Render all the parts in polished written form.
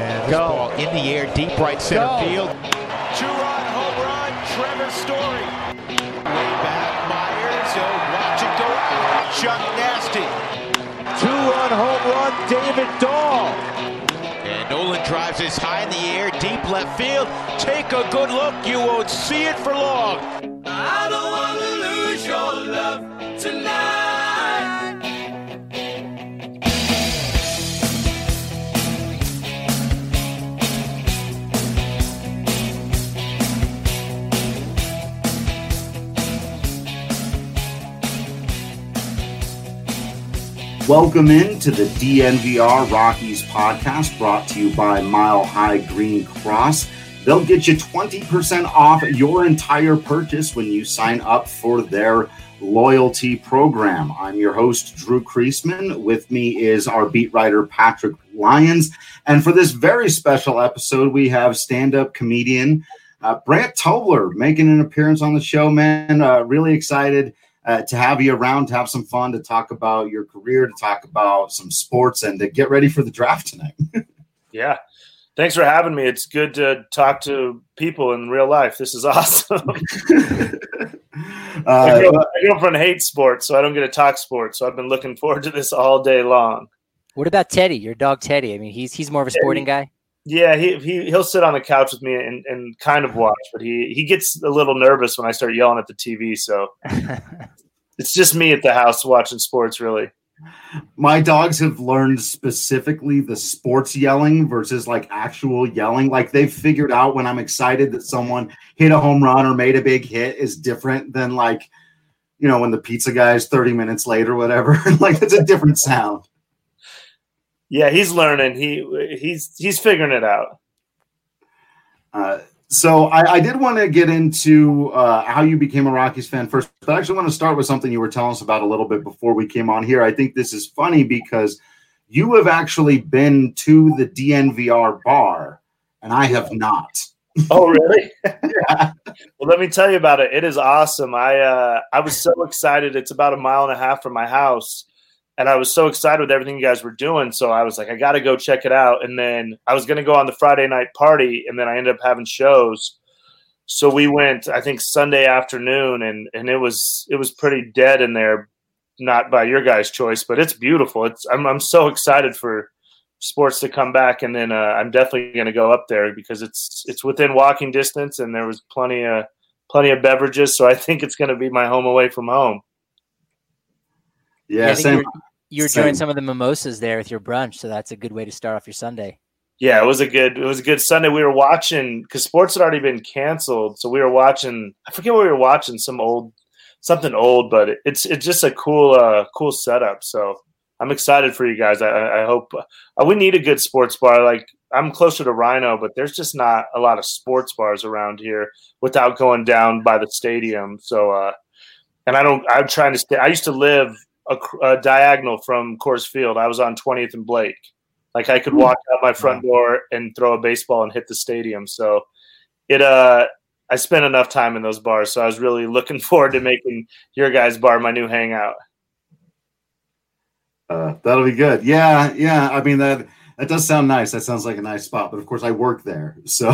And this ball in the air, deep right center field. Two-run home run, Trevor Story. Way back, Myers. Watch it go out. Chuck Nasty. Two-run home run, David Dahl. And Nolan drives this high in the air, deep left field. Take a good look, you won't see it for long. I don't want to lose your love tonight. Welcome into the DNVR Rockies podcast, brought to you by Mile High Green Cross. They'll get you 20% off your entire purchase when you sign up for their loyalty program. I'm your host, Drew Kreisman. With me is our beat writer, Patrick Lyons. And for this very special episode, we have stand-up comedian Brant Tobler making an appearance on the show, man. Really excited to have you around, to have some fun, to talk about your career, to talk about some sports, and to get ready for the draft tonight. Yeah. Thanks for having me. It's good to talk to people in real life. This is awesome. My girlfriend hates sports, so I don't get to talk sports. So I've been looking forward to this all day long. What about Teddy, your dog Teddy? I mean, he's more of a sporting guy. Yeah, he'll sit on the couch with me and kind of watch, but he gets a little nervous when I start yelling at the TV. So it's just me at the house watching sports, really. My dogs have learned specifically the sports yelling versus like actual yelling. Like they've figured out when I'm excited that someone hit a home run or made a big hit is different than like, you know, when the pizza guy is 30 minutes late or whatever. Like it's a different sound. Yeah, he's learning. He's figuring it out. So I did want to get into how you became a Rockies fan first, but I actually want to start with something you were telling us about a little bit before we came on here. I think this is funny because you have actually been to the DNVR bar, and I have not. Oh, really? Yeah. Well, let me tell you about it. It is awesome. I was so excited. It's about 1.5 miles from my house. And I was so excited with everything you guys were doing. So I was like, I got to go check it out. And then I was going to go on the Friday night party, and then I ended up having shows. So we went, I think, Sunday afternoon, and it was pretty dead in there, not by your guys' choice, but it's beautiful. I'm so excited for sports to come back. And then I'm definitely going to go up there because it's within walking distance, and there was plenty of beverages. So I think it's going to be my home away from home. Yeah, same. You were enjoying some of the mimosas there with your brunch, so that's a good way to start off your Sunday. Yeah, it was a good Sunday. We were watching because sports had already been canceled, so we were watching. I forget what we were watching, something old, but it's just a cool setup. So I'm excited for you guys. I hope we need a good sports bar. Like I'm closer to Rhino, but there's just not a lot of sports bars around here without going down by the stadium. So and I'm trying to stay. I used to live a diagonal from Coors Field. I was on 20th and Blake. Like I could walk out my front door and throw a baseball and hit the stadium. So I spent enough time in those bars. So I was really looking forward to making your guys' bar my new hangout. That'll be good. Yeah. I mean, that does sound nice. That sounds like a nice spot, but of course I work there. So,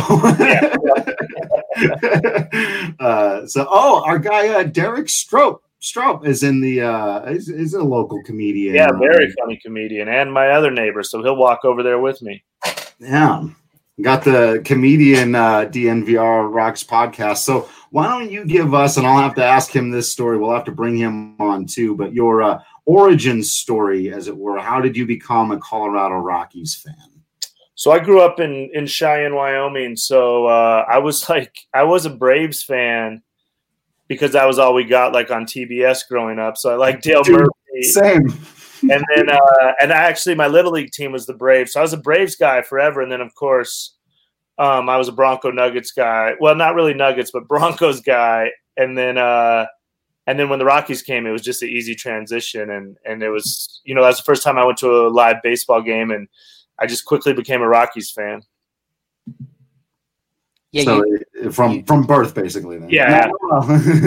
our guy, Derek Stroop is in the is a local comedian. Yeah, very funny comedian, and my other neighbor, so he'll walk over there with me. Yeah, got the comedian DNVR Rocks podcast. So why don't you give us, and I'll have to ask him this story. We'll have to bring him on too, but your origin story, as it were. How did you become a Colorado Rockies fan? So I grew up in Cheyenne, Wyoming. So I was a Braves fan, because that was all we got like on TBS growing up. So I like Dale Murphy. Same. And then, and actually my Little League team was the Braves. So I was a Braves guy forever. And then of course I was a Bronco Nuggets guy. Well, not really Nuggets, but Broncos guy. And then when the Rockies came, it was just an easy transition. And it was, that was the first time I went to a live baseball game, and I just quickly became a Rockies fan. Yeah, so from birth, basically. Then. Yeah,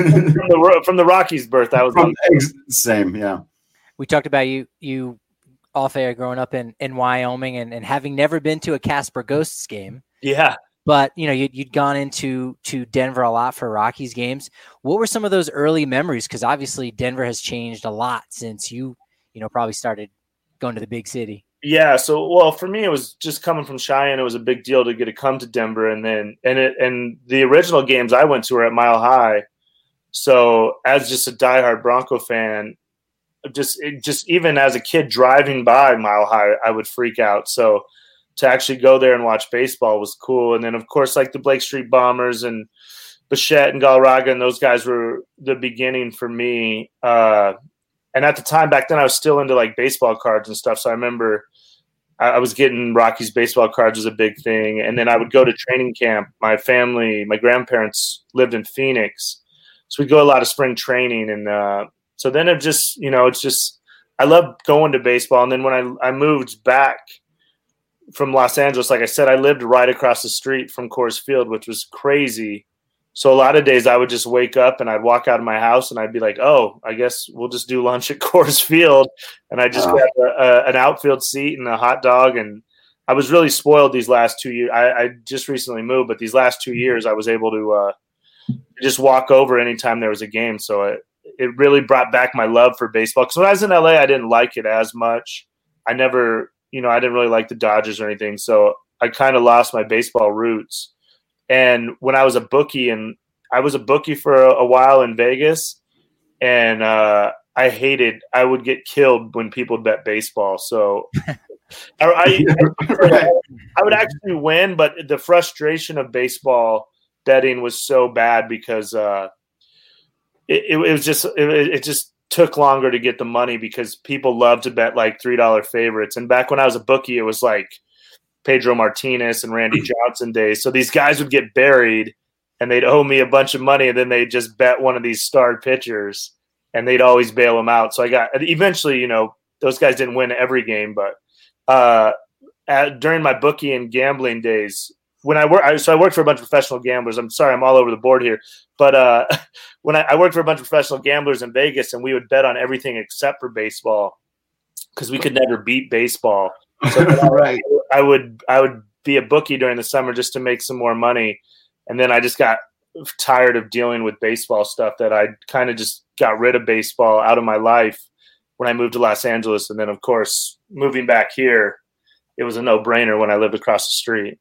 from the Rockies' birth, that was same. Yeah, we talked about you off air growing up in Wyoming and having never been to a Casper Ghosts game. Yeah. But, you'd gone into Denver a lot for Rockies games. What were some of those early memories? Because obviously Denver has changed a lot since you probably started going to the big city. Yeah. So, well, for me, it was just coming from Cheyenne. It was a big deal to get to come to Denver. And then, and the original games I went to were at Mile High. So as just a diehard Bronco fan, just even as a kid driving by Mile High, I would freak out. So to actually go there and watch baseball was cool. And then, of course, like the Blake Street Bombers and Bichette and Galarraga and those guys were the beginning for me. And at the time back then, I was still into like baseball cards and stuff. So I remember I was getting Rockies baseball cards was a big thing. And then I would go to training camp. My grandparents lived in Phoenix. So we'd go a lot of spring training. And so then it just, it's just, I love going to baseball. And then when I moved back from Los Angeles, like I said, I lived right across the street from Coors Field, which was crazy. So a lot of days I would just wake up and I'd walk out of my house and I'd be like, oh, I guess we'll just do lunch at Coors Field. And I just got an outfield seat and a hot dog. And I was really spoiled these last 2 years. I just recently moved, but these last 2 years I was able to just walk over anytime there was a game. So it really brought back my love for baseball. Because when I was in LA, I didn't like it as much. I didn't really like the Dodgers or anything. So I kind of lost my baseball roots. And when I was a bookie, and I was a bookie for a while in Vegas, and I would get killed when people bet baseball. So I would actually win, but the frustration of baseball betting was so bad because it just took longer to get the money because people love to bet like $3 favorites. And back when I was a bookie, it was like Pedro Martinez and Randy Johnson days. So these guys would get buried and they'd owe me a bunch of money, and then they'd just bet one of these star pitchers and they'd always bail them out. So eventually, those guys didn't win every game, but during my bookie and gambling days, when I worked for a bunch of professional gamblers. I'm sorry, I'm all over the board here. But when I worked for a bunch of professional gamblers in Vegas, and we would bet on everything except for baseball because we could never beat baseball. So right. I would be a bookie during the summer just to make some more money. And then I just got tired of dealing with baseball stuff, that I kind of just got rid of baseball out of my life when I moved to Los Angeles. And then, of course, moving back here, it was a no-brainer when I lived across the street.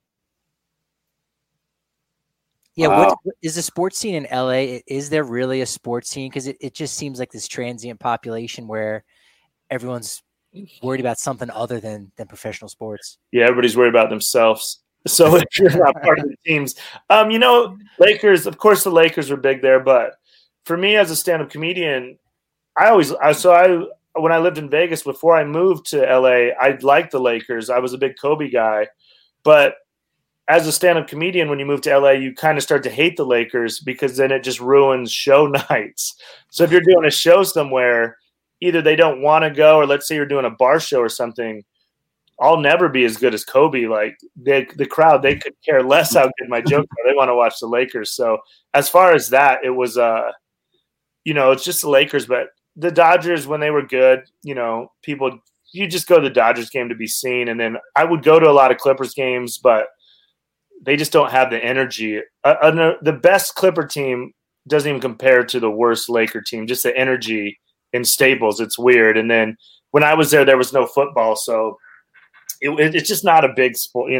Yeah, wow. What is the sports scene in LA? Is there really a sports scene? Because it just seems like this transient population where everyone's worried about something other than professional sports. Yeah, everybody's worried about themselves. So if you're not part of the teams, Lakers, of course the Lakers were big there, but for me as a stand-up comedian, when I lived in Vegas before I moved to LA, I liked the Lakers. I was a big Kobe guy, but as a stand-up comedian, when you move to LA, you kind of start to hate the Lakers because then it just ruins show nights. So if you're doing a show somewhere, either they don't want to go, or let's say you're doing a bar show or something, I'll never be as good as Kobe. Like the crowd, they could care less how good my jokes are. They want to watch the Lakers. So as far as that, it was, it's just the Lakers. But the Dodgers, when they were good, you just go to the Dodgers game to be seen. And then I would go to a lot of Clippers games, but they just don't have the energy. The best Clipper team doesn't even compare to the worst Laker team. Just the energy in Staples, it's weird. And then when I was there was no football, so it's just not a big sport.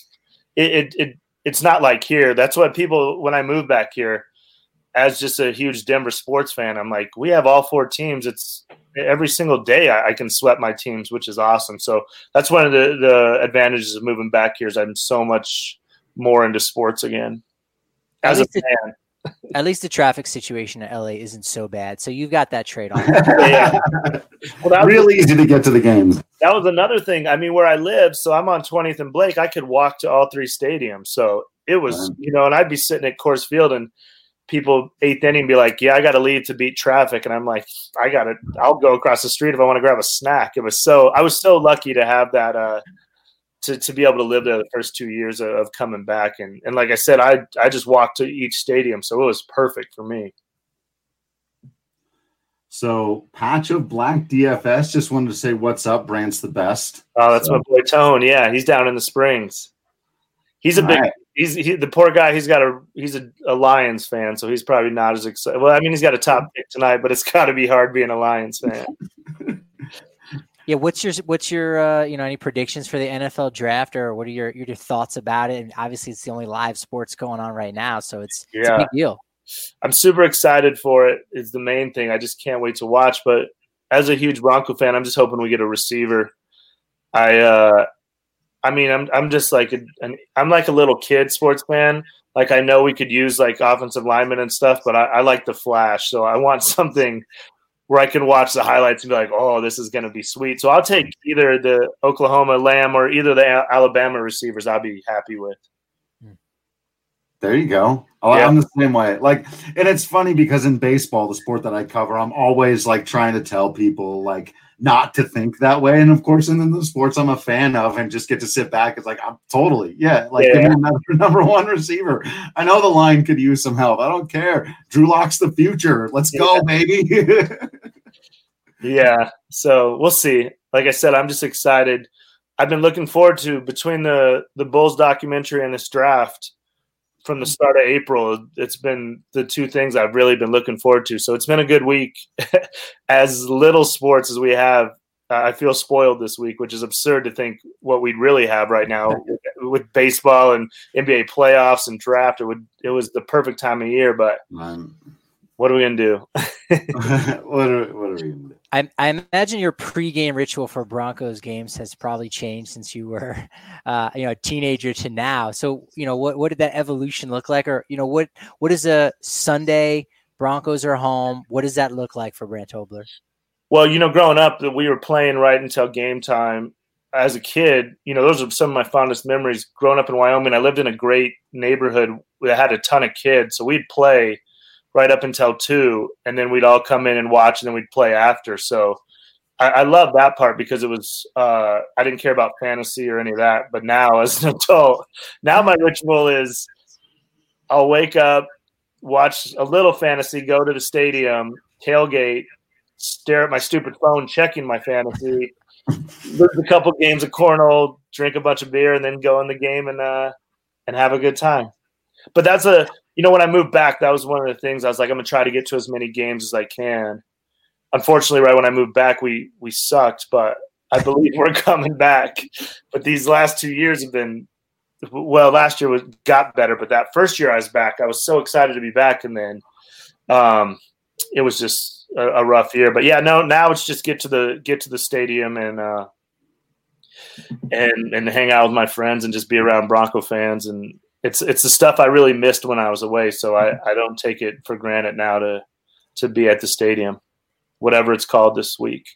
It's not like here. That's what people, when I moved back here, as just a huge Denver sports fan, I'm like, we have all four teams. It's every single day I can sweat my teams, which is awesome. So that's one of the advantages of moving back here, is I'm so much more into sports again as a fan. At least the traffic situation in LA isn't so bad. So you've got that trade on. Yeah. Well, really easy to get to the games. That was another thing. I mean, where I live, so I'm on 20th and Blake, I could walk to all three stadiums. So it was, and I'd be sitting at Coors Field and people 8th inning be like, yeah, I got to leave to beat traffic. And I'm like, I'll go across the street if I want to grab a snack. I was so lucky to have that, to be able to live there the first 2 years of coming back. And like I said, I just walked to each stadium. So it was perfect for me. So, Patch of Black DFS just wanted to say, what's up? Brant's the best. Oh, that's my boy Tone. Yeah, he's down in the Springs. He's a big. Right. The poor guy. He's a Lions fan, so he's probably not as excited. Well, I mean, he's got a top pick tonight, but it's got to be hard being a Lions fan. Yeah, what's your any predictions for the NFL draft, or what are your thoughts about it? And obviously, it's the only live sports going on right now, so it's a big deal. I'm super excited for it. Is the main thing. I just can't wait to watch. But as a huge Bronco fan, I'm just hoping we get a receiver. I'm just like I'm like a little kid sports fan. Like I know we could use like offensive linemen and stuff, but I like the flash. So I want something where I can watch the highlights and be like, oh, this is going to be sweet. So I'll take either the Oklahoma Lamb or either the Alabama receivers. I'll be happy with. There you go. Oh, yeah. I'm the same way. Like, and it's funny because in baseball, the sport that I cover, I'm always like trying to tell people like not to think that way. And of course, in the sports I'm a fan of and just get to sit back. It's like, I'm totally, give me another number one receiver. I know the line could use some help. I don't care. Drew Lock's the future. Let's go, baby. Yeah. So we'll see. Like I said, I'm just excited. I've been looking forward to between the Bulls documentary and this draft. From the start of April, it's been the two things I've really been looking forward to. So it's been a good week. As little sports as we have, I feel spoiled this week, which is absurd to think what we'd really have right now with baseball and NBA playoffs and draft. It was the perfect time of year, but what are we going to do? What are we going to do? I imagine your pregame ritual for Broncos games has probably changed since you were, a teenager to now. So, what did that evolution look like? Or, what is a Sunday Broncos are home? What does that look like for Brant Tobler? Well, growing up, we were playing right until game time. As a kid, those are some of my fondest memories. Growing up in Wyoming, I lived in a great neighborhood that had a ton of kids. So we'd play right up until 2, and then we'd all come in and watch, and then we'd play after. So I love that part because it was I didn't care about fantasy or any of that. But now as an adult, now my ritual is I'll wake up, watch a little fantasy, go to the stadium, tailgate, stare at my stupid phone, checking my fantasy, lose a couple games of cornhole, drink a bunch of beer, and then go in the game and have a good time. But that's when I moved back, that was one of the things I was like, I'm going to try to get to as many games as I can. Unfortunately, right when I moved back, we sucked, but I believe we're coming back. But these last 2 years have been, well, last year got better, but that first year I was back, I was so excited to be back. And then it was just a rough year. But yeah, no, now it's just get to the stadium and hang out with my friends and just be around Bronco fans. And it's the stuff I really missed when I was away. So I don't take it for granted now to be at the stadium, whatever it's called this week.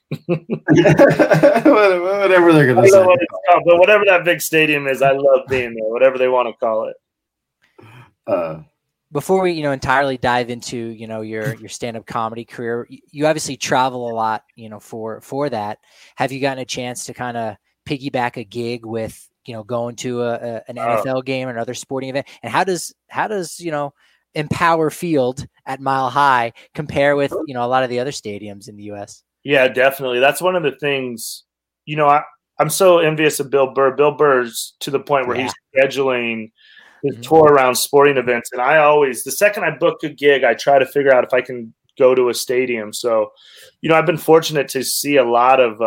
Whatever they're going to say. What it's called, but whatever that big stadium is, I love being there, whatever they want to call it. Before we, entirely dive into, your stand-up comedy career, you obviously travel a lot, for that. Have you gotten a chance to kind of piggyback a gig with, going to an NFL game or another sporting event? And how does Empower Field at Mile High compare with, a lot of the other stadiums in the U.S.? Yeah, definitely. That's one of the things, I'm so envious of Bill Burr. Bill Burr's to the point where he's scheduling his tour around sporting events. And I always, the second I book a gig, I try to figure out if I can go to a stadium. So, I've been fortunate to see a lot of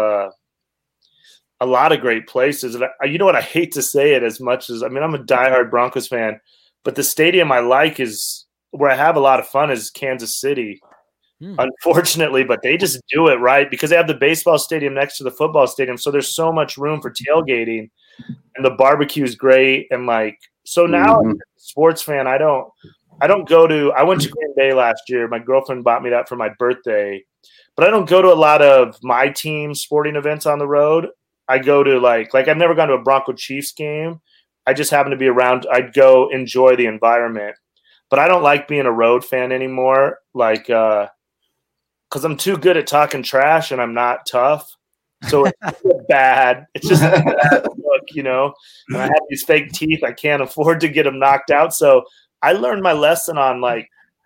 great places. And you know what? I hate to say it as much as, I'm a diehard Broncos fan, but the stadium I like is where I have a lot of fun is Kansas City, unfortunately, but they just do it right because they have the baseball stadium next to the football stadium. So there's so much room for tailgating and the barbecue is great. And so now as a sports fan, I went to Green Bay last year. My girlfriend bought me that for my birthday, but I don't go to a lot of my team sporting events on the road. I go to like I've never gone to a Bronco Chiefs game. I just happen to be around. I'd go enjoy the environment, but I don't like being a road fan anymore. Because I'm too good at talking trash and I'm not tough. So it's bad. It's just a bad look, and I have these fake teeth. I can't afford to get them knocked out. So I learned my lesson on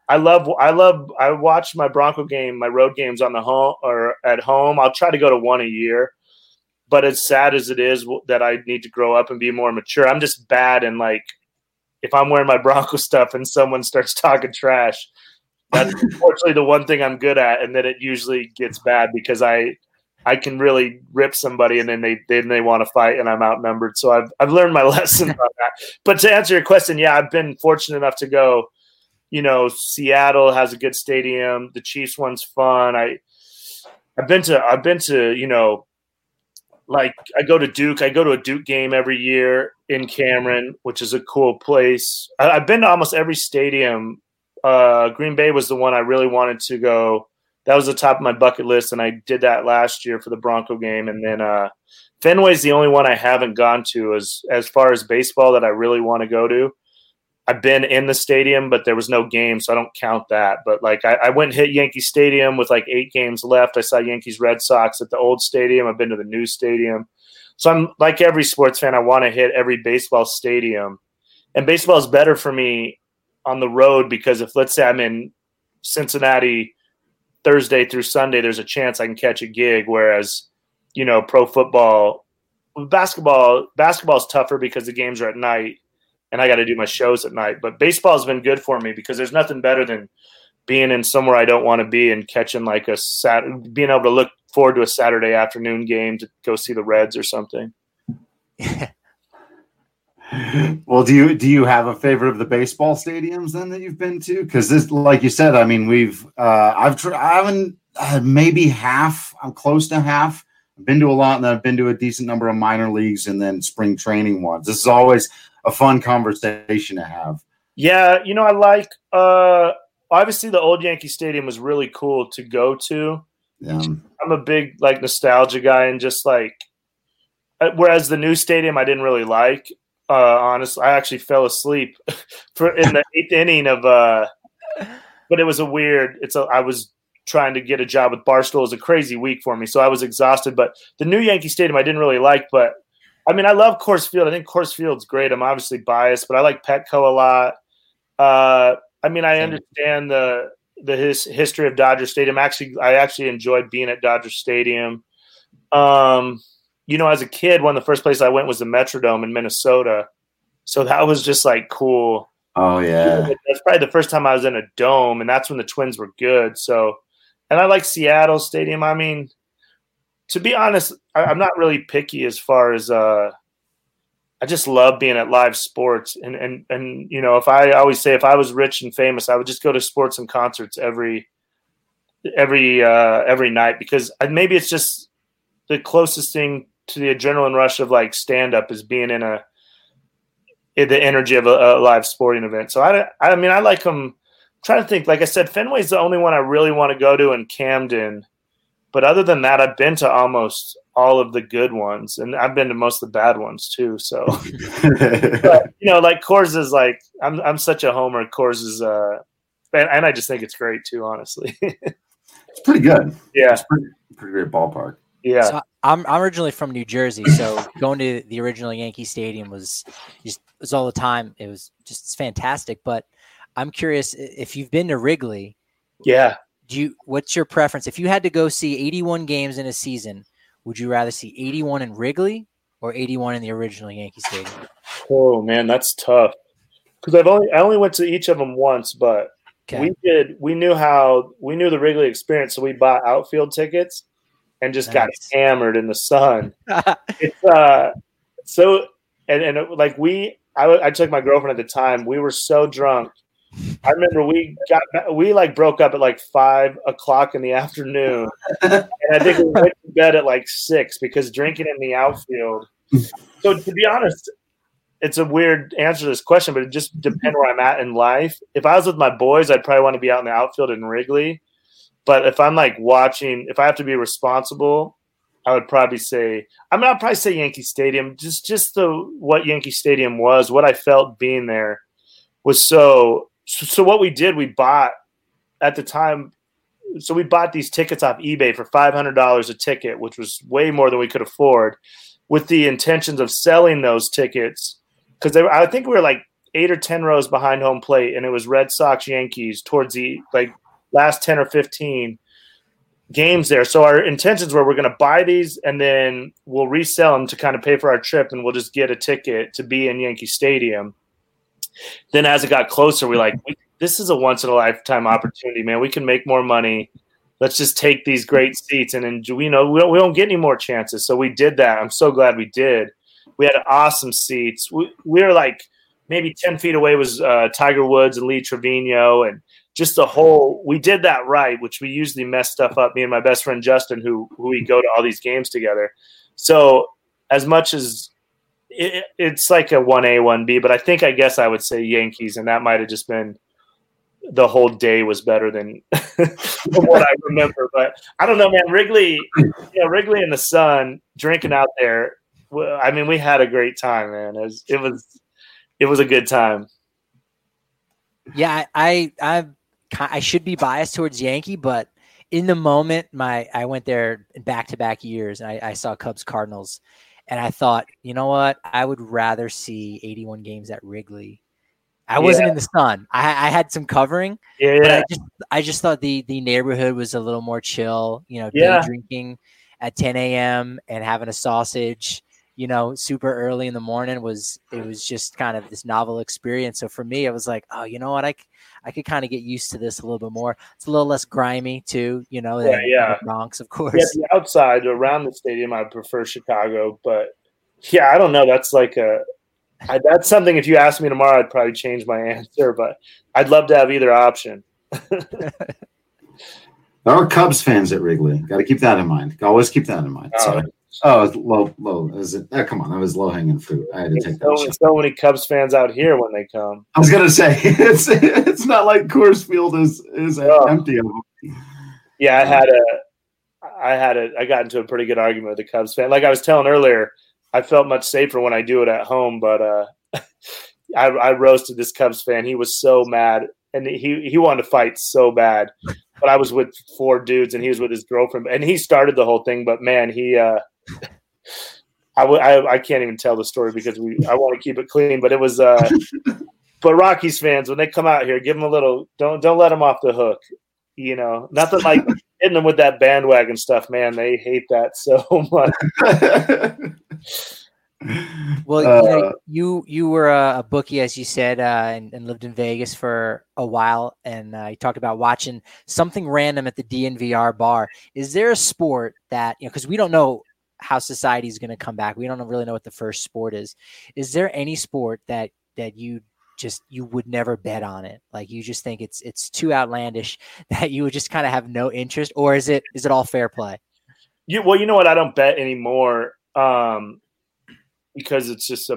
I watch my Bronco game, my road games on the home or at home. I'll try to go to one a year, but as sad as it is that I need to grow up and be more mature, I'm just bad. And like, if I'm wearing my Bronco stuff and someone starts talking trash, that's unfortunately the one thing I'm good at. And then it usually gets bad because I can really rip somebody and then they want to fight and I'm outnumbered. So I've learned my lesson on that. But to answer your question, yeah, I've been fortunate enough to go. Seattle has a good stadium. The Chiefs one's fun. I've been to, like I go to Duke. I go to a Duke game every year in Cameron, which is a cool place. I've been to almost every stadium. Green Bay was the one I really wanted to go. That was the top of my bucket list, and I did that last year for the Bronco game. And then Fenway's the only one I haven't gone to as far as baseball that I really want to go to. I've been in the stadium, but there was no game, so I don't count that. But like I went and hit Yankee Stadium with like 8 games left. I saw Yankees Red Sox at the old stadium. I've been to the new stadium. So I'm like every sports fan, I want to hit every baseball stadium. And baseball is better for me on the road because if, let's say, I'm in Cincinnati Thursday through Sunday, there's a chance I can catch a gig. Whereas, pro football, basketball is tougher because the games are at night. And I got to do my shows at night. But baseball has been good for me because there's nothing better than being in somewhere I don't want to be and catching like being able to look forward to a Saturday afternoon game to go see the Reds or something. Well, do you have a favorite of the baseball stadiums then that you've been to? Because this, like you said, I mean, I haven't maybe half. I'm close to half. I've been to a lot, and then I've been to a decent number of minor leagues and then spring training ones. This is always a fun conversation to have. Yeah, I like obviously the old Yankee Stadium was really cool to go to. Yeah. I'm a big like nostalgia guy, and just like whereas the new stadium I didn't really like. Honestly, I actually fell asleep in the 8th inning of but it was I was trying to get a job with Barstool. It was a crazy week for me, so I was exhausted. But the new Yankee Stadium I didn't really like, but I mean, I love Coors Field. I think Coors Field's great. I'm obviously biased, but I like Petco a lot. I mean, I understand the history of Dodger Stadium. I actually enjoyed being at Dodger Stadium. As a kid, one of the first places I went was the Metrodome in Minnesota. So that was just like cool. Oh, yeah. That's probably the first time I was in a dome, and that's when the Twins were good. So, and I like Seattle Stadium. I mean, to be honest, I'm not really picky as far as I just love being at live sports. And if I always say if I was rich and famous, I would just go to sports and concerts every night because maybe it's just the closest thing to the adrenaline rush of like stand up is being in the energy of a live sporting event. So I mean, I like them. I'm trying to think, like I said, Fenway's the only one I really want to go to in Camden. But other than that, I've been to almost all of the good ones, and I've been to most of the bad ones too. So, but, like Coors is like, I'm such a homer. Coors is, and I just think it's great too, honestly. It's pretty good. Yeah, it's pretty great ballpark. Yeah, so I'm originally from New Jersey, so going to the original Yankee Stadium was all the time. It's fantastic. But I'm curious if you've been to Wrigley. Yeah. What's your preference? If you had to go see 81 games in a season, would you rather see 81 in Wrigley or 81 in the original Yankee Stadium? Oh man, that's tough. Because I only went to each of them once, but we knew the Wrigley experience, so we bought outfield tickets and just got hammered in the sun. It's so I took my girlfriend at the time. We were so drunk. I remember we broke up at like 5 o'clock in the afternoon, and I think we went to bed at like 6 because drinking in the outfield. So to be honest, it's a weird answer to this question, but it just depends where I'm at in life. If I was with my boys, I'd probably want to be out in the outfield in Wrigley. But if I'm like watching, if I have to be responsible, I would probably say, I'd probably say Yankee Stadium. Just what Yankee Stadium was, what I felt being there was so. So what we did, we bought at the time. So we bought these tickets off eBay for $500 a ticket, which was way more than we could afford, with the intentions of selling those tickets because I think we were like 8 or 10 rows behind home plate, and it was Red Sox, Yankees towards the last 10 or 15 games there. So our intentions were we're going to buy these and then we'll resell them to kind of pay for our trip, and we'll just get a ticket to be in Yankee Stadium. Then as it got closer, we're like, this is a once-in-a-lifetime opportunity, man. We can make more money. Let's just take these great seats, and we don't get any more chances. So we did that. I'm so glad we did. We had awesome seats. We were like maybe 10 feet away was Tiger Woods and Lee Trevino, and just the whole – we did that right, which we usually mess stuff up, me and my best friend Justin, who we go to all these games together. So as much as it's like a 1A, 1B, but I guess I would say Yankees, and that might have just been – the whole day was better than what I remember. But I don't know, man. Wrigley in the sun, drinking out there. I mean, we had a great time, man. It was a good time. Yeah, I should be biased towards Yankee, but in the moment, I went there in back-to-back years, and I saw Cubs Cardinals, and I thought, you know what? I would rather see 81 games at Wrigley. I wasn't in the sun. I had some covering, but I just thought the neighborhood was a little more chill. Day drinking at 10 a.m. and having a sausage, super early in the morning was just kind of this novel experience. So for me, I was like, oh, you know what? I could kind of get used to this a little bit more. It's a little less grimy too, than the Bronx, of course. Yeah, the outside around the stadium, I prefer Chicago, but yeah, I don't know. That's like that's something, if you asked me tomorrow, I'd probably change my answer, but I'd love to have either option. There are Cubs fans at Wrigley. Got to keep that in mind. Always keep that in mind. Sorry. It's low. Is it? Come on, that was low-hanging fruit. I had to take that. So many Cubs fans out here when they come. I was gonna say it's not like Coors Field is empty of them. Yeah, I got into a pretty good argument with a Cubs fan. Like I was telling earlier, I felt much safer when I do it at home, but I roasted this Cubs fan. He was so mad, and he wanted to fight so bad. But I was with 4 dudes, and he was with his girlfriend, and he started the whole thing. But man, I can't even tell the story because I want to keep it clean. But it was, but Rockies fans, when they come out here, give them a little. Don't let them off the hook. Nothing like hitting them with that bandwagon stuff, man. They hate that so much. Well, you were a bookie, as you said, and lived in Vegas for a while, and you talked about watching something random at the DNVR bar. Is there a sport that, because we don't know how society is going to come back. We don't really know what the first sport is. Is there any sport that you would never bet on it? Like you just think it's too outlandish that you would just kind of have no interest, or is it all fair play? Well, you know what? I don't bet anymore because it's just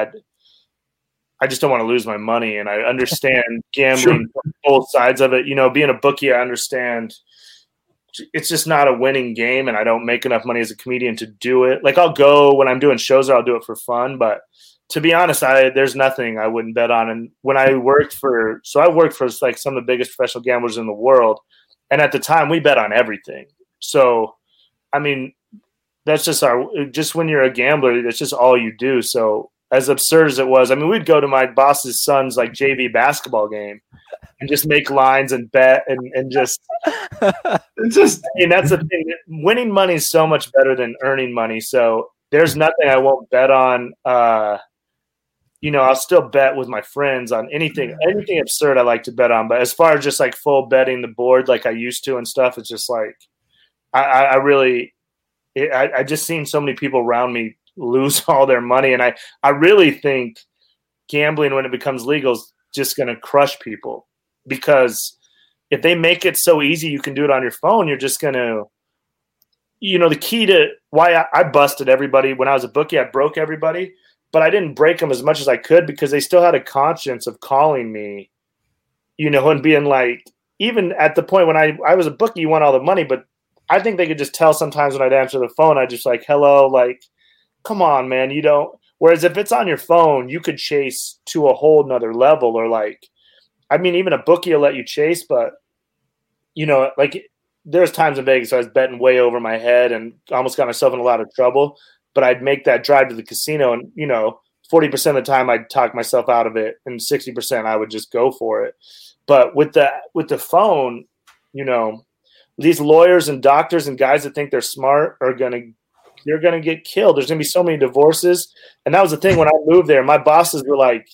I just don't want to lose my money, and I understand gambling from both sides of it. Being a bookie, I understand it's just not a winning game, and I don't make enough money as a comedian to do it. Like I'll go when I'm doing shows, or I'll do it for fun, but to be honest, there's nothing I wouldn't bet on. And when I worked for like some of the biggest professional gamblers in the world. And at the time we bet on everything. So, I mean, that's just when you're a gambler, that's just all you do. So as absurd as it was, I mean, we'd go to my boss's son's like JV basketball game and just make lines and bet and just, I mean, that's the thing. Winning money is so much better than earning money. So there's nothing I won't bet on. I'll still bet with my friends on anything absurd I like to bet on. But as far as just like full betting the board like I used to and stuff, it's just like I just seen so many people around me lose all their money. And I really think gambling, when it becomes legal, is just going to crush people, because if they make it so easy you can do it on your phone, you're just going to, the key to why I busted everybody when I was a bookie, I broke everybody. But I didn't break them as much as I could because they still had a conscience of calling me, and being like, even at the point when I was a bookie, you want all the money, but I think they could just tell sometimes when I'd answer the phone, I just like, hello, like, come on, man, you don't. Whereas if it's on your phone, you could chase to a whole nother level, or like, I mean, even a bookie will let you chase, but like there's times in Vegas I was betting way over my head and almost got myself in a lot of trouble. But I'd make that drive to the casino and, 40% of the time I'd talk myself out of it, and 60% I would just go for it. But with the phone, you know, these lawyers and doctors and guys that think they're smart they're gonna get killed. There's gonna be so many divorces. And that was the thing when I moved there. My bosses were like,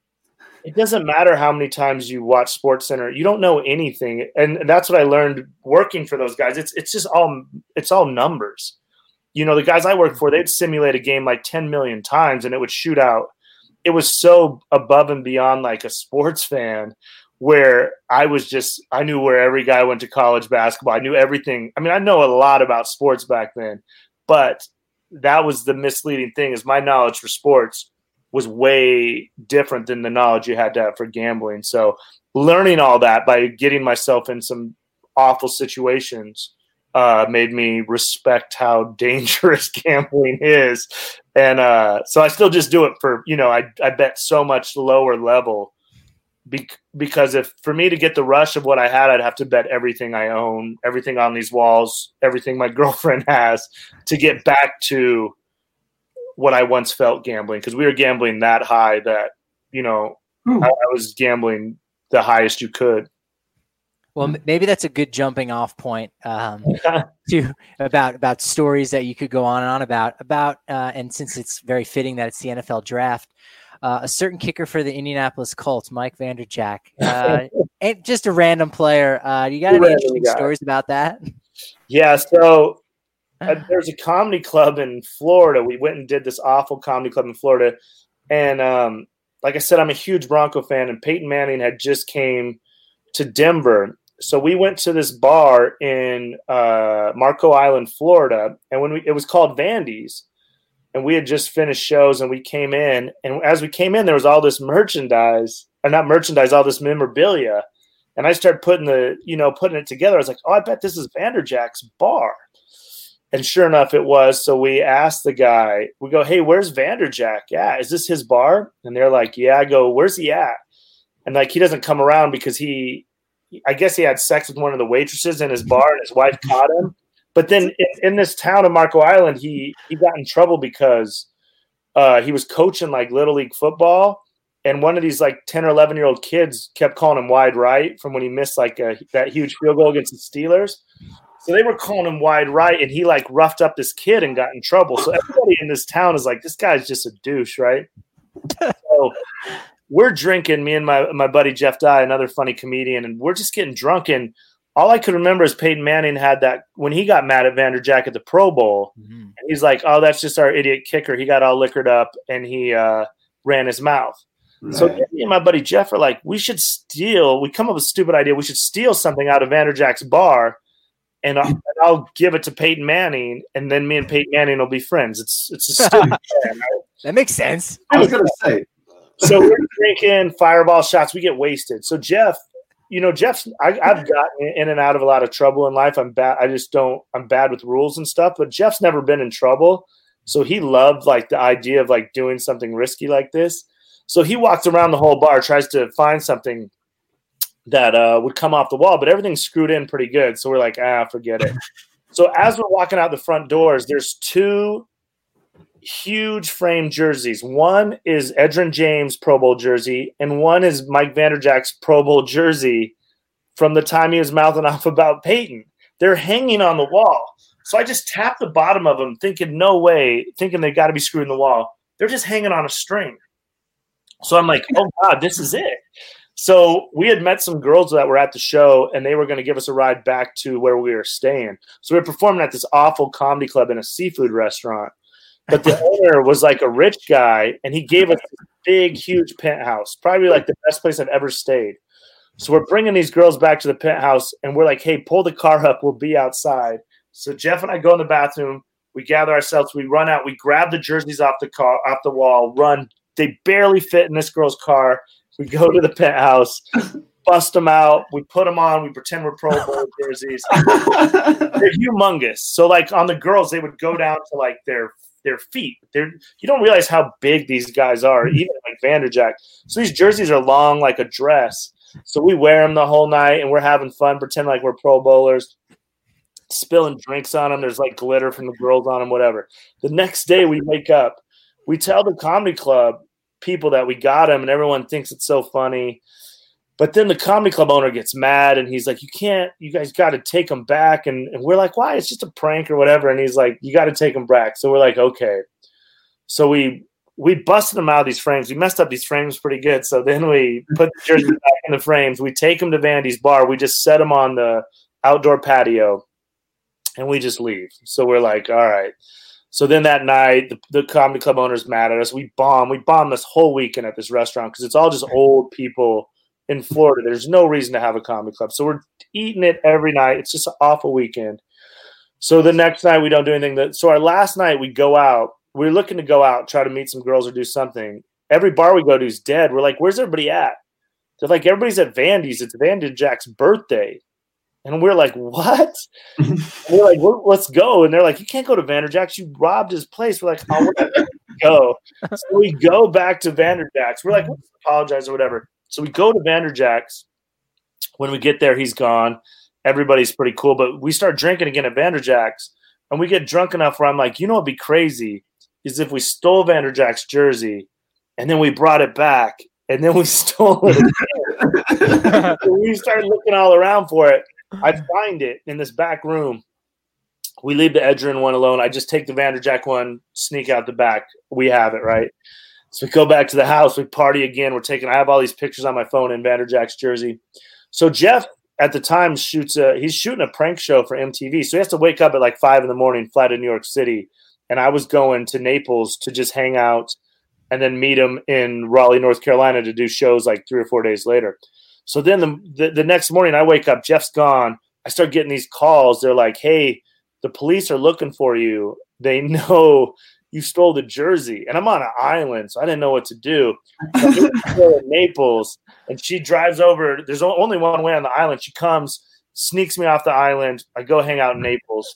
it doesn't matter how many times you watch SportsCenter, you don't know anything. And that's what I learned working for those guys. It's all numbers. You know, the guys I work for, they'd simulate a game like 10 million times and it would shoot out. It was so above and beyond like a sports fan, where I knew where every guy went to college basketball. I knew everything. I mean, I know a lot about sports back then, but that was the misleading thing, is my knowledge for sports was way different than the knowledge you had to have for gambling. So learning all that by getting myself in some awful situations made me respect how dangerous gambling is. And so I still just do it for, you know, I bet so much lower level because for me to get the rush of what I had, I'd have to bet everything I own, everything on these walls, everything my girlfriend has, to get back to what I once felt gambling. Because we were gambling that high that, you know, I was gambling the highest you could. Well, maybe that's a good jumping off point to about stories that you could go on and on about. And since it's very fitting that it's the NFL draft, a certain kicker for the Indianapolis Colts, Mike Vanderjagt, ain't just a random player. You got any interesting stories about that? Yeah. So there's a comedy club in Florida. We went and did this awful comedy club in Florida. And like I said, I'm a huge Bronco fan, and Peyton Manning had just came to Denver. So we went to this bar in Marco Island, Florida, and it was called Vandy's, and we had just finished shows, and we came in, and as we came in, there was all this all this memorabilia, and I started putting it together. I was like, oh, I bet this is Vanderjagt's bar, and sure enough, it was. So we asked the guy, we go, hey, where's Vanderjagt? Yeah, is this his bar? And they're like, yeah. I go, where's he at? And like, he doesn't come around because I guess he had sex with one of the waitresses in his bar and his wife caught him. But then in this town of Marco Island, he got in trouble because he was coaching like Little League football. And one of these like 10 or 11-year-old kids kept calling him wide right from when he missed like that huge field goal against the Steelers. So they were calling him wide right, and he like roughed up this kid and got in trouble. So everybody in this town is like, this guy's just a douche, right? So we're drinking, me and my buddy Jeff Dye, another funny comedian, and we're just getting drunk. And all I could remember is Peyton Manning had that when he got mad at Vanderjagt at the Pro Bowl. Mm-hmm. And he's like, oh, that's just our idiot kicker. He got all liquored up and he ran his mouth. Right. So me and my buddy Jeff are like, we come up with a stupid idea. We should steal something out of Vanderjagt's bar, and I'll give it to Peyton Manning, and then me and Peyton Manning will be friends. It's a stupid plan, right? That makes sense. I was going to say. So we're drinking fireball shots. We get wasted. So Jeff's, I've gotten in and out of a lot of trouble in life. I'm bad. I'm bad with rules and stuff, but Jeff's never been in trouble. So he loved like the idea of like doing something risky like this. So he walks around the whole bar, tries to find something that would come off the wall, but everything's screwed in pretty good. So we're like, forget it. So as we're walking out the front doors, there's two huge frame jerseys. One is Edgerrin James Pro Bowl jersey, and one is Mike Vanderjagt's Pro Bowl jersey from the time he was mouthing off about Peyton. They're hanging on the wall. So I just tapped the bottom of them, thinking they got to be screwed in the wall. They're just hanging on a string. So I'm like, oh God, this is it. So we had met some girls that were at the show, and they were going to give us a ride back to where we were staying. So we were performing at this awful comedy club in a seafood restaurant. But the owner was like a rich guy, and he gave us a big, huge penthouse, probably like the best place I've ever stayed. So we're bringing these girls back to the penthouse, and we're like, hey, pull the car up. We'll be outside. So Jeff and I go in the bathroom. We gather ourselves. We run out. We grab the jerseys off the wall, run. They barely fit in this girl's car. We go to the penthouse, bust them out. We put them on. We pretend we're Pro Bowl jerseys. They're humongous. So like on the girls, they would go down to like their feet. You don't realize how big these guys are, even like Vanderjagt. So these jerseys are long like a dress. So we wear them the whole night, and we're having fun, pretend like we're Pro Bowlers, spilling drinks on them. There's like glitter from the girls on them, whatever. The next day we wake up. we tell the comedy club people that we got him, and everyone thinks it's so funny. But then the comedy club owner gets mad, and he's like, you guys got to take him back. And we're like, why? It's just a prank or whatever. And he's like, you got to take him back. So we're like, okay. So we busted him out of these frames. We messed up these frames pretty good. So then we put the jersey back in the frames. We take him to Vandy's bar. We just set him on the outdoor patio, and we just leave. So we're like, all right. So then that night, the comedy club owner's mad at us. We bomb this whole weekend at this restaurant because it's all just old people in Florida. There's no reason to have a comedy club. So we're eating it every night. It's just an awful weekend. So the next night, we don't do anything. So our last night, we go out. We're looking to go out, try to meet some girls or do something. Every bar we go to is dead. We're like, where's everybody at? They're like, everybody's at Vandy's. It's Vandy Jack's birthday. And we're like, what? We're like, let's go. And they're like, you can't go to Vanderjack's. You robbed his place. We're like, oh, we're going to go. So we go back to Vanderjack's. We're like, let's apologize or whatever. So we go to Vanderjack's. When we get there, he's gone. Everybody's pretty cool. But we start drinking again at Vanderjack's. And we get drunk enough where I'm like, you know what would be crazy is if we stole Vanderjack's jersey and then we brought it back and then we stole it again. So we started looking all around for it. I find it in this back room. We leave the Edgerrin one alone. I just take the Vanderjack one, sneak out the back. We have it, right? So we go back to the house. We party again. I have all these pictures on my phone in Vanderjack's jersey. So Jeff at the time he's shooting a prank show for MTV. So he has to wake up at like 5 a.m, fly to New York City. And I was going to Naples to just hang out and then meet him in Raleigh, North Carolina to do shows like 3 or 4 days later. So then the next morning I wake up, Jeff's gone. I start getting these calls. They're like, hey, the police are looking for you. They know you stole the jersey. And I'm on an island, so I didn't know what to do. So I'm in Naples, and she drives over. There's only one way on the island. She comes, sneaks me off the island. I go hang out in Naples.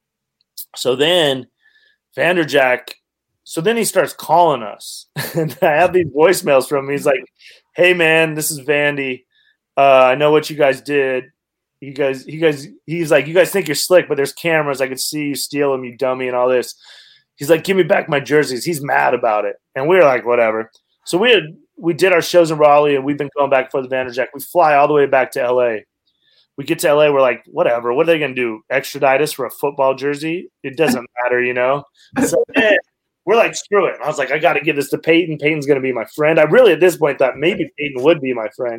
So then Vanderjack he starts calling us. And I have these voicemails from him. He's like, hey, man, this is Vandy. I know what you guys did. He's like, you guys think you're slick, but there's cameras. I could see you steal them, you dummy, and all this. He's like, give me back my jerseys. He's mad about it. And we were like, whatever. So we did our shows in Raleigh, and we've been going back for the Vanderjack. We fly all the way back to LA. We get to LA, we're like, whatever. What are they going to do? Extradite us for a football jersey? It doesn't matter, you know? So then we're like, screw it. And I was like, I got to give this to Peyton. Peyton's going to be my friend. I really, at this point, thought maybe Peyton would be my friend.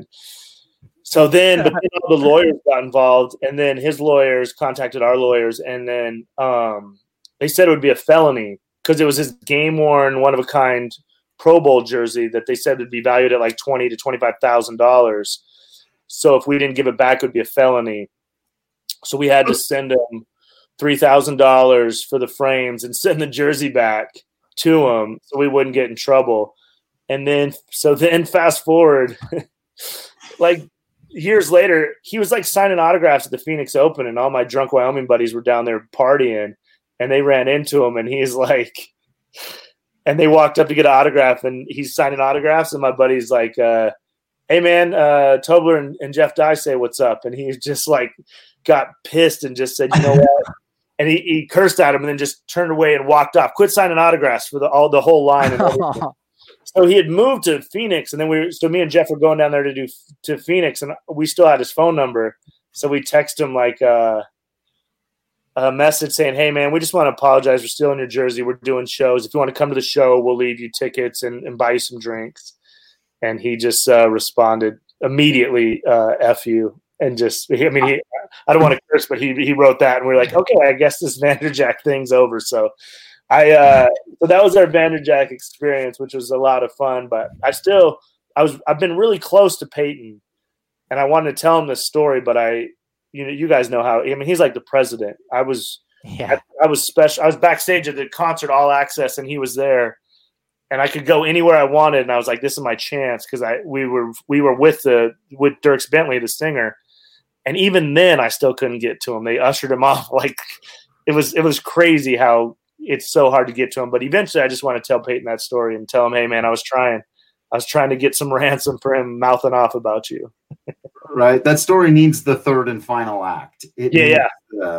So then, but then all the lawyers got involved, and then his lawyers contacted our lawyers, and then they said it would be a felony because it was his game-worn, one-of-a-kind Pro Bowl jersey that they said would be valued at like $20,000 to $25,000. So if we didn't give it back, it would be a felony. So we had to send him $3,000 for the frames and send the jersey back to him so we wouldn't get in trouble. And then fast forward, like years later, he was like signing autographs at the Phoenix Open, and all my drunk Wyoming buddies were down there partying, and they ran into him, and he's like, and they walked up to get an autograph, and he's signing autographs, and my buddy's like, hey man, Tobler and Jeff Dye say what's up, and he just like got pissed and just said, you know what? And he cursed at him and then just turned away and walked off. Quit signing autographs for the whole line. And so he had moved to Phoenix, and then me and Jeff were going down there to Phoenix, and we still had his phone number. So we text him like a message saying, hey man, we just want to apologize for stealing your jersey. We're doing shows. If you want to come to the show, we'll leave you tickets and buy you some drinks. And he just responded immediately, F you. And just, I don't want to curse, but he wrote that, and we're like, okay, I guess this Vanderjack thing's over. So so that was our Vanderjack experience, which was a lot of fun. But I've been really close to Peyton, and I wanted to tell him this story, but you guys know how. He's like the president. I was special. I was backstage at the concert All Access, and he was there, and I could go anywhere I wanted. And I was like, this is my chance, because we were with Dierks Bentley, the singer. And even then, I still couldn't get to him. They ushered him off. Like it was crazy how it's so hard to get to him. But eventually, I just want to tell Peyton that story and tell him, hey, man, I was trying to get some ransom for him mouthing off about you. Right. That story needs the third and final act. Yeah.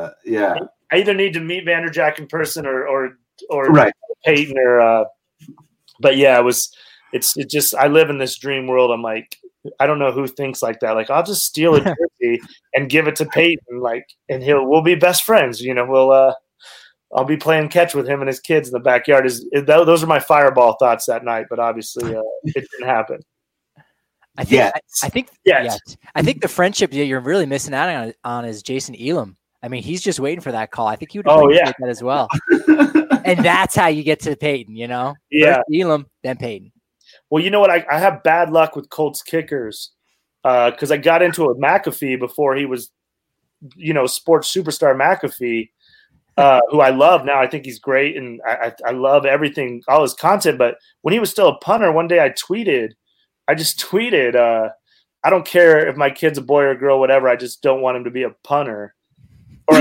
I either need to meet Vanderjack in person or right. Peyton or But yeah, it just, I live in this dream world. I'm like, I don't know who thinks like that. Like, I'll just steal a jersey and give it to Peyton, and we'll be best friends. I'll be playing catch with him and his kids in the backyard. Those are my fireball thoughts that night, but obviously it didn't happen. I think the friendship that you're really missing out on is Jason Elam. I mean, he's just waiting for that call. I think he would appreciate that as well. And that's how you get to Peyton, Yeah. First Elam, then Peyton. Well, you know what? I have bad luck with Colts kickers because I got into it with McAfee before he was, sports superstar McAfee, who I love now. I think he's great, and I love everything, all his content. But when he was still a punter, one day I just tweeted, I don't care if my kid's a boy or a girl, whatever. I just don't want him to be a punter or a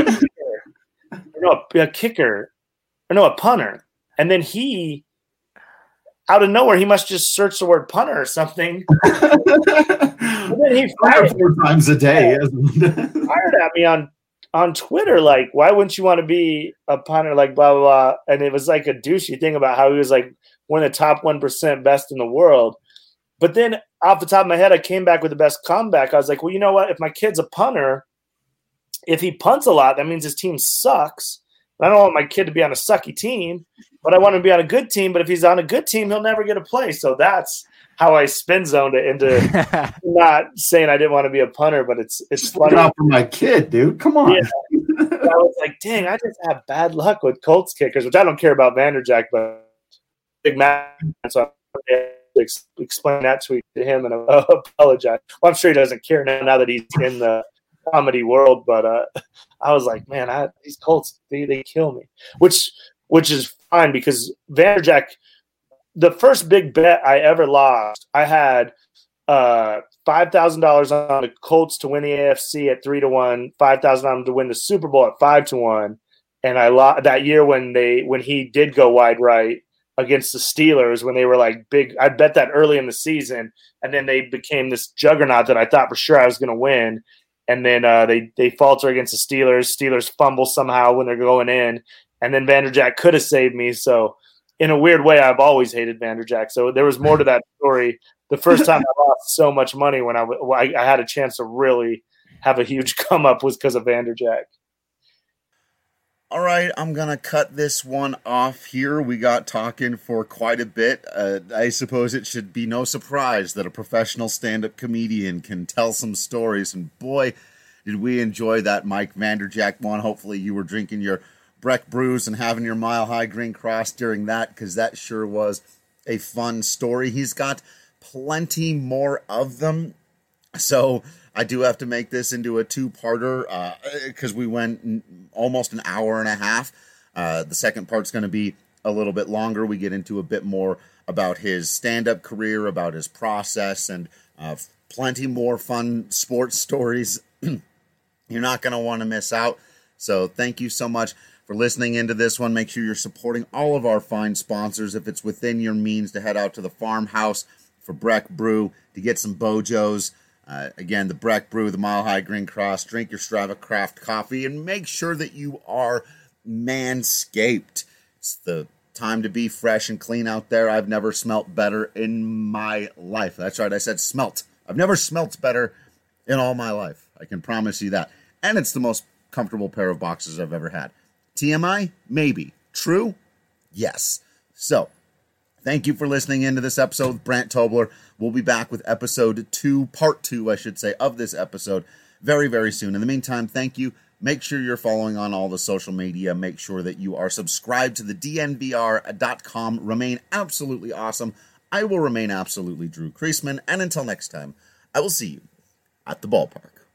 kicker. A punter. And then he, out of nowhere, he must just search the word punter or something. And then he fired 4 times a day. Fired at me on Twitter, like, why wouldn't you want to be a punter? Like, blah, blah, blah. And it was like a douchey thing about how he was like one of the top 1% best in the world. But then off the top of my head, I came back with the best comeback. I was like, well, you know what? If my kid's a punter, if he punts a lot, that means his team sucks. I don't want my kid to be on a sucky team, but I want him to be on a good team. But if he's on a good team, he'll never get a play. So that's how I spin zoned it into not saying I didn't want to be a punter, but it's funny. Look out for my kid, dude. Come on. Yeah. I was like, dang, I just have bad luck with Colts kickers, which I don't care about Vanderjagt, but big man. So I explain that tweet to him and apologize. Well, I'm sure he doesn't care now that he's in the comedy world, but I was like, man, these Colts, they kill me, which is fine because Vanderjagt, the first big bet I ever lost, I had $5,000 on the Colts to win the AFC at 3-1, $5,000 on them to win the Super Bowl at 5-1, and I lost that year when he did go wide right against the Steelers when they were like big. I bet that early in the season, and then they became this juggernaut that I thought for sure I was going to win. And then they falter against the Steelers. Steelers fumble somehow when they're going in. And then Vanderjagt could have saved me. So in a weird way, I've always hated Vanderjagt. So there was more to that story. The first time I lost so much money when I had a chance to really have a huge come up was because of Vanderjagt. All right, I'm going to cut this one off here. We got talking for quite a bit. I suppose it should be no surprise that a professional stand-up comedian can tell some stories. And boy, did we enjoy that Mike Vanderjagt one. Hopefully you were drinking your Breck brews and having your Mile High Green Cross during that, because that sure was a fun story. He's got plenty more of them. So I do have to make this into a two-parter because we went almost an hour and a half. The second part's going to be a little bit longer. We get into a bit more about his stand-up career, about his process, and plenty more fun sports stories. You're not going to want to miss out. So thank you so much for listening into this one. Make sure you're supporting all of our fine sponsors. If it's within your means, to head out to the farmhouse for Breck Brew to get some Bojos. Again, the Breck Brew, the Mile High Green Cross. Drink your Strava Craft coffee and make sure that you are manscaped. It's the time to be fresh and clean out there. I've never smelt better in my life. That's right, I said smelt. I've never smelt better in all my life. I can promise you that. And it's the most comfortable pair of boxers I've ever had. TMI? Maybe. True? Yes. So, thank you for listening into this episode with Brant Tobler. We'll be back with episode 2, part 2, I should say, of this episode very, very soon. In the meantime, thank you. Make sure you're following on all the social media. Make sure that you are subscribed to the DNVR.com. Remain absolutely awesome. I will remain absolutely Drew Creasman. And until next time, I will see you at the ballpark.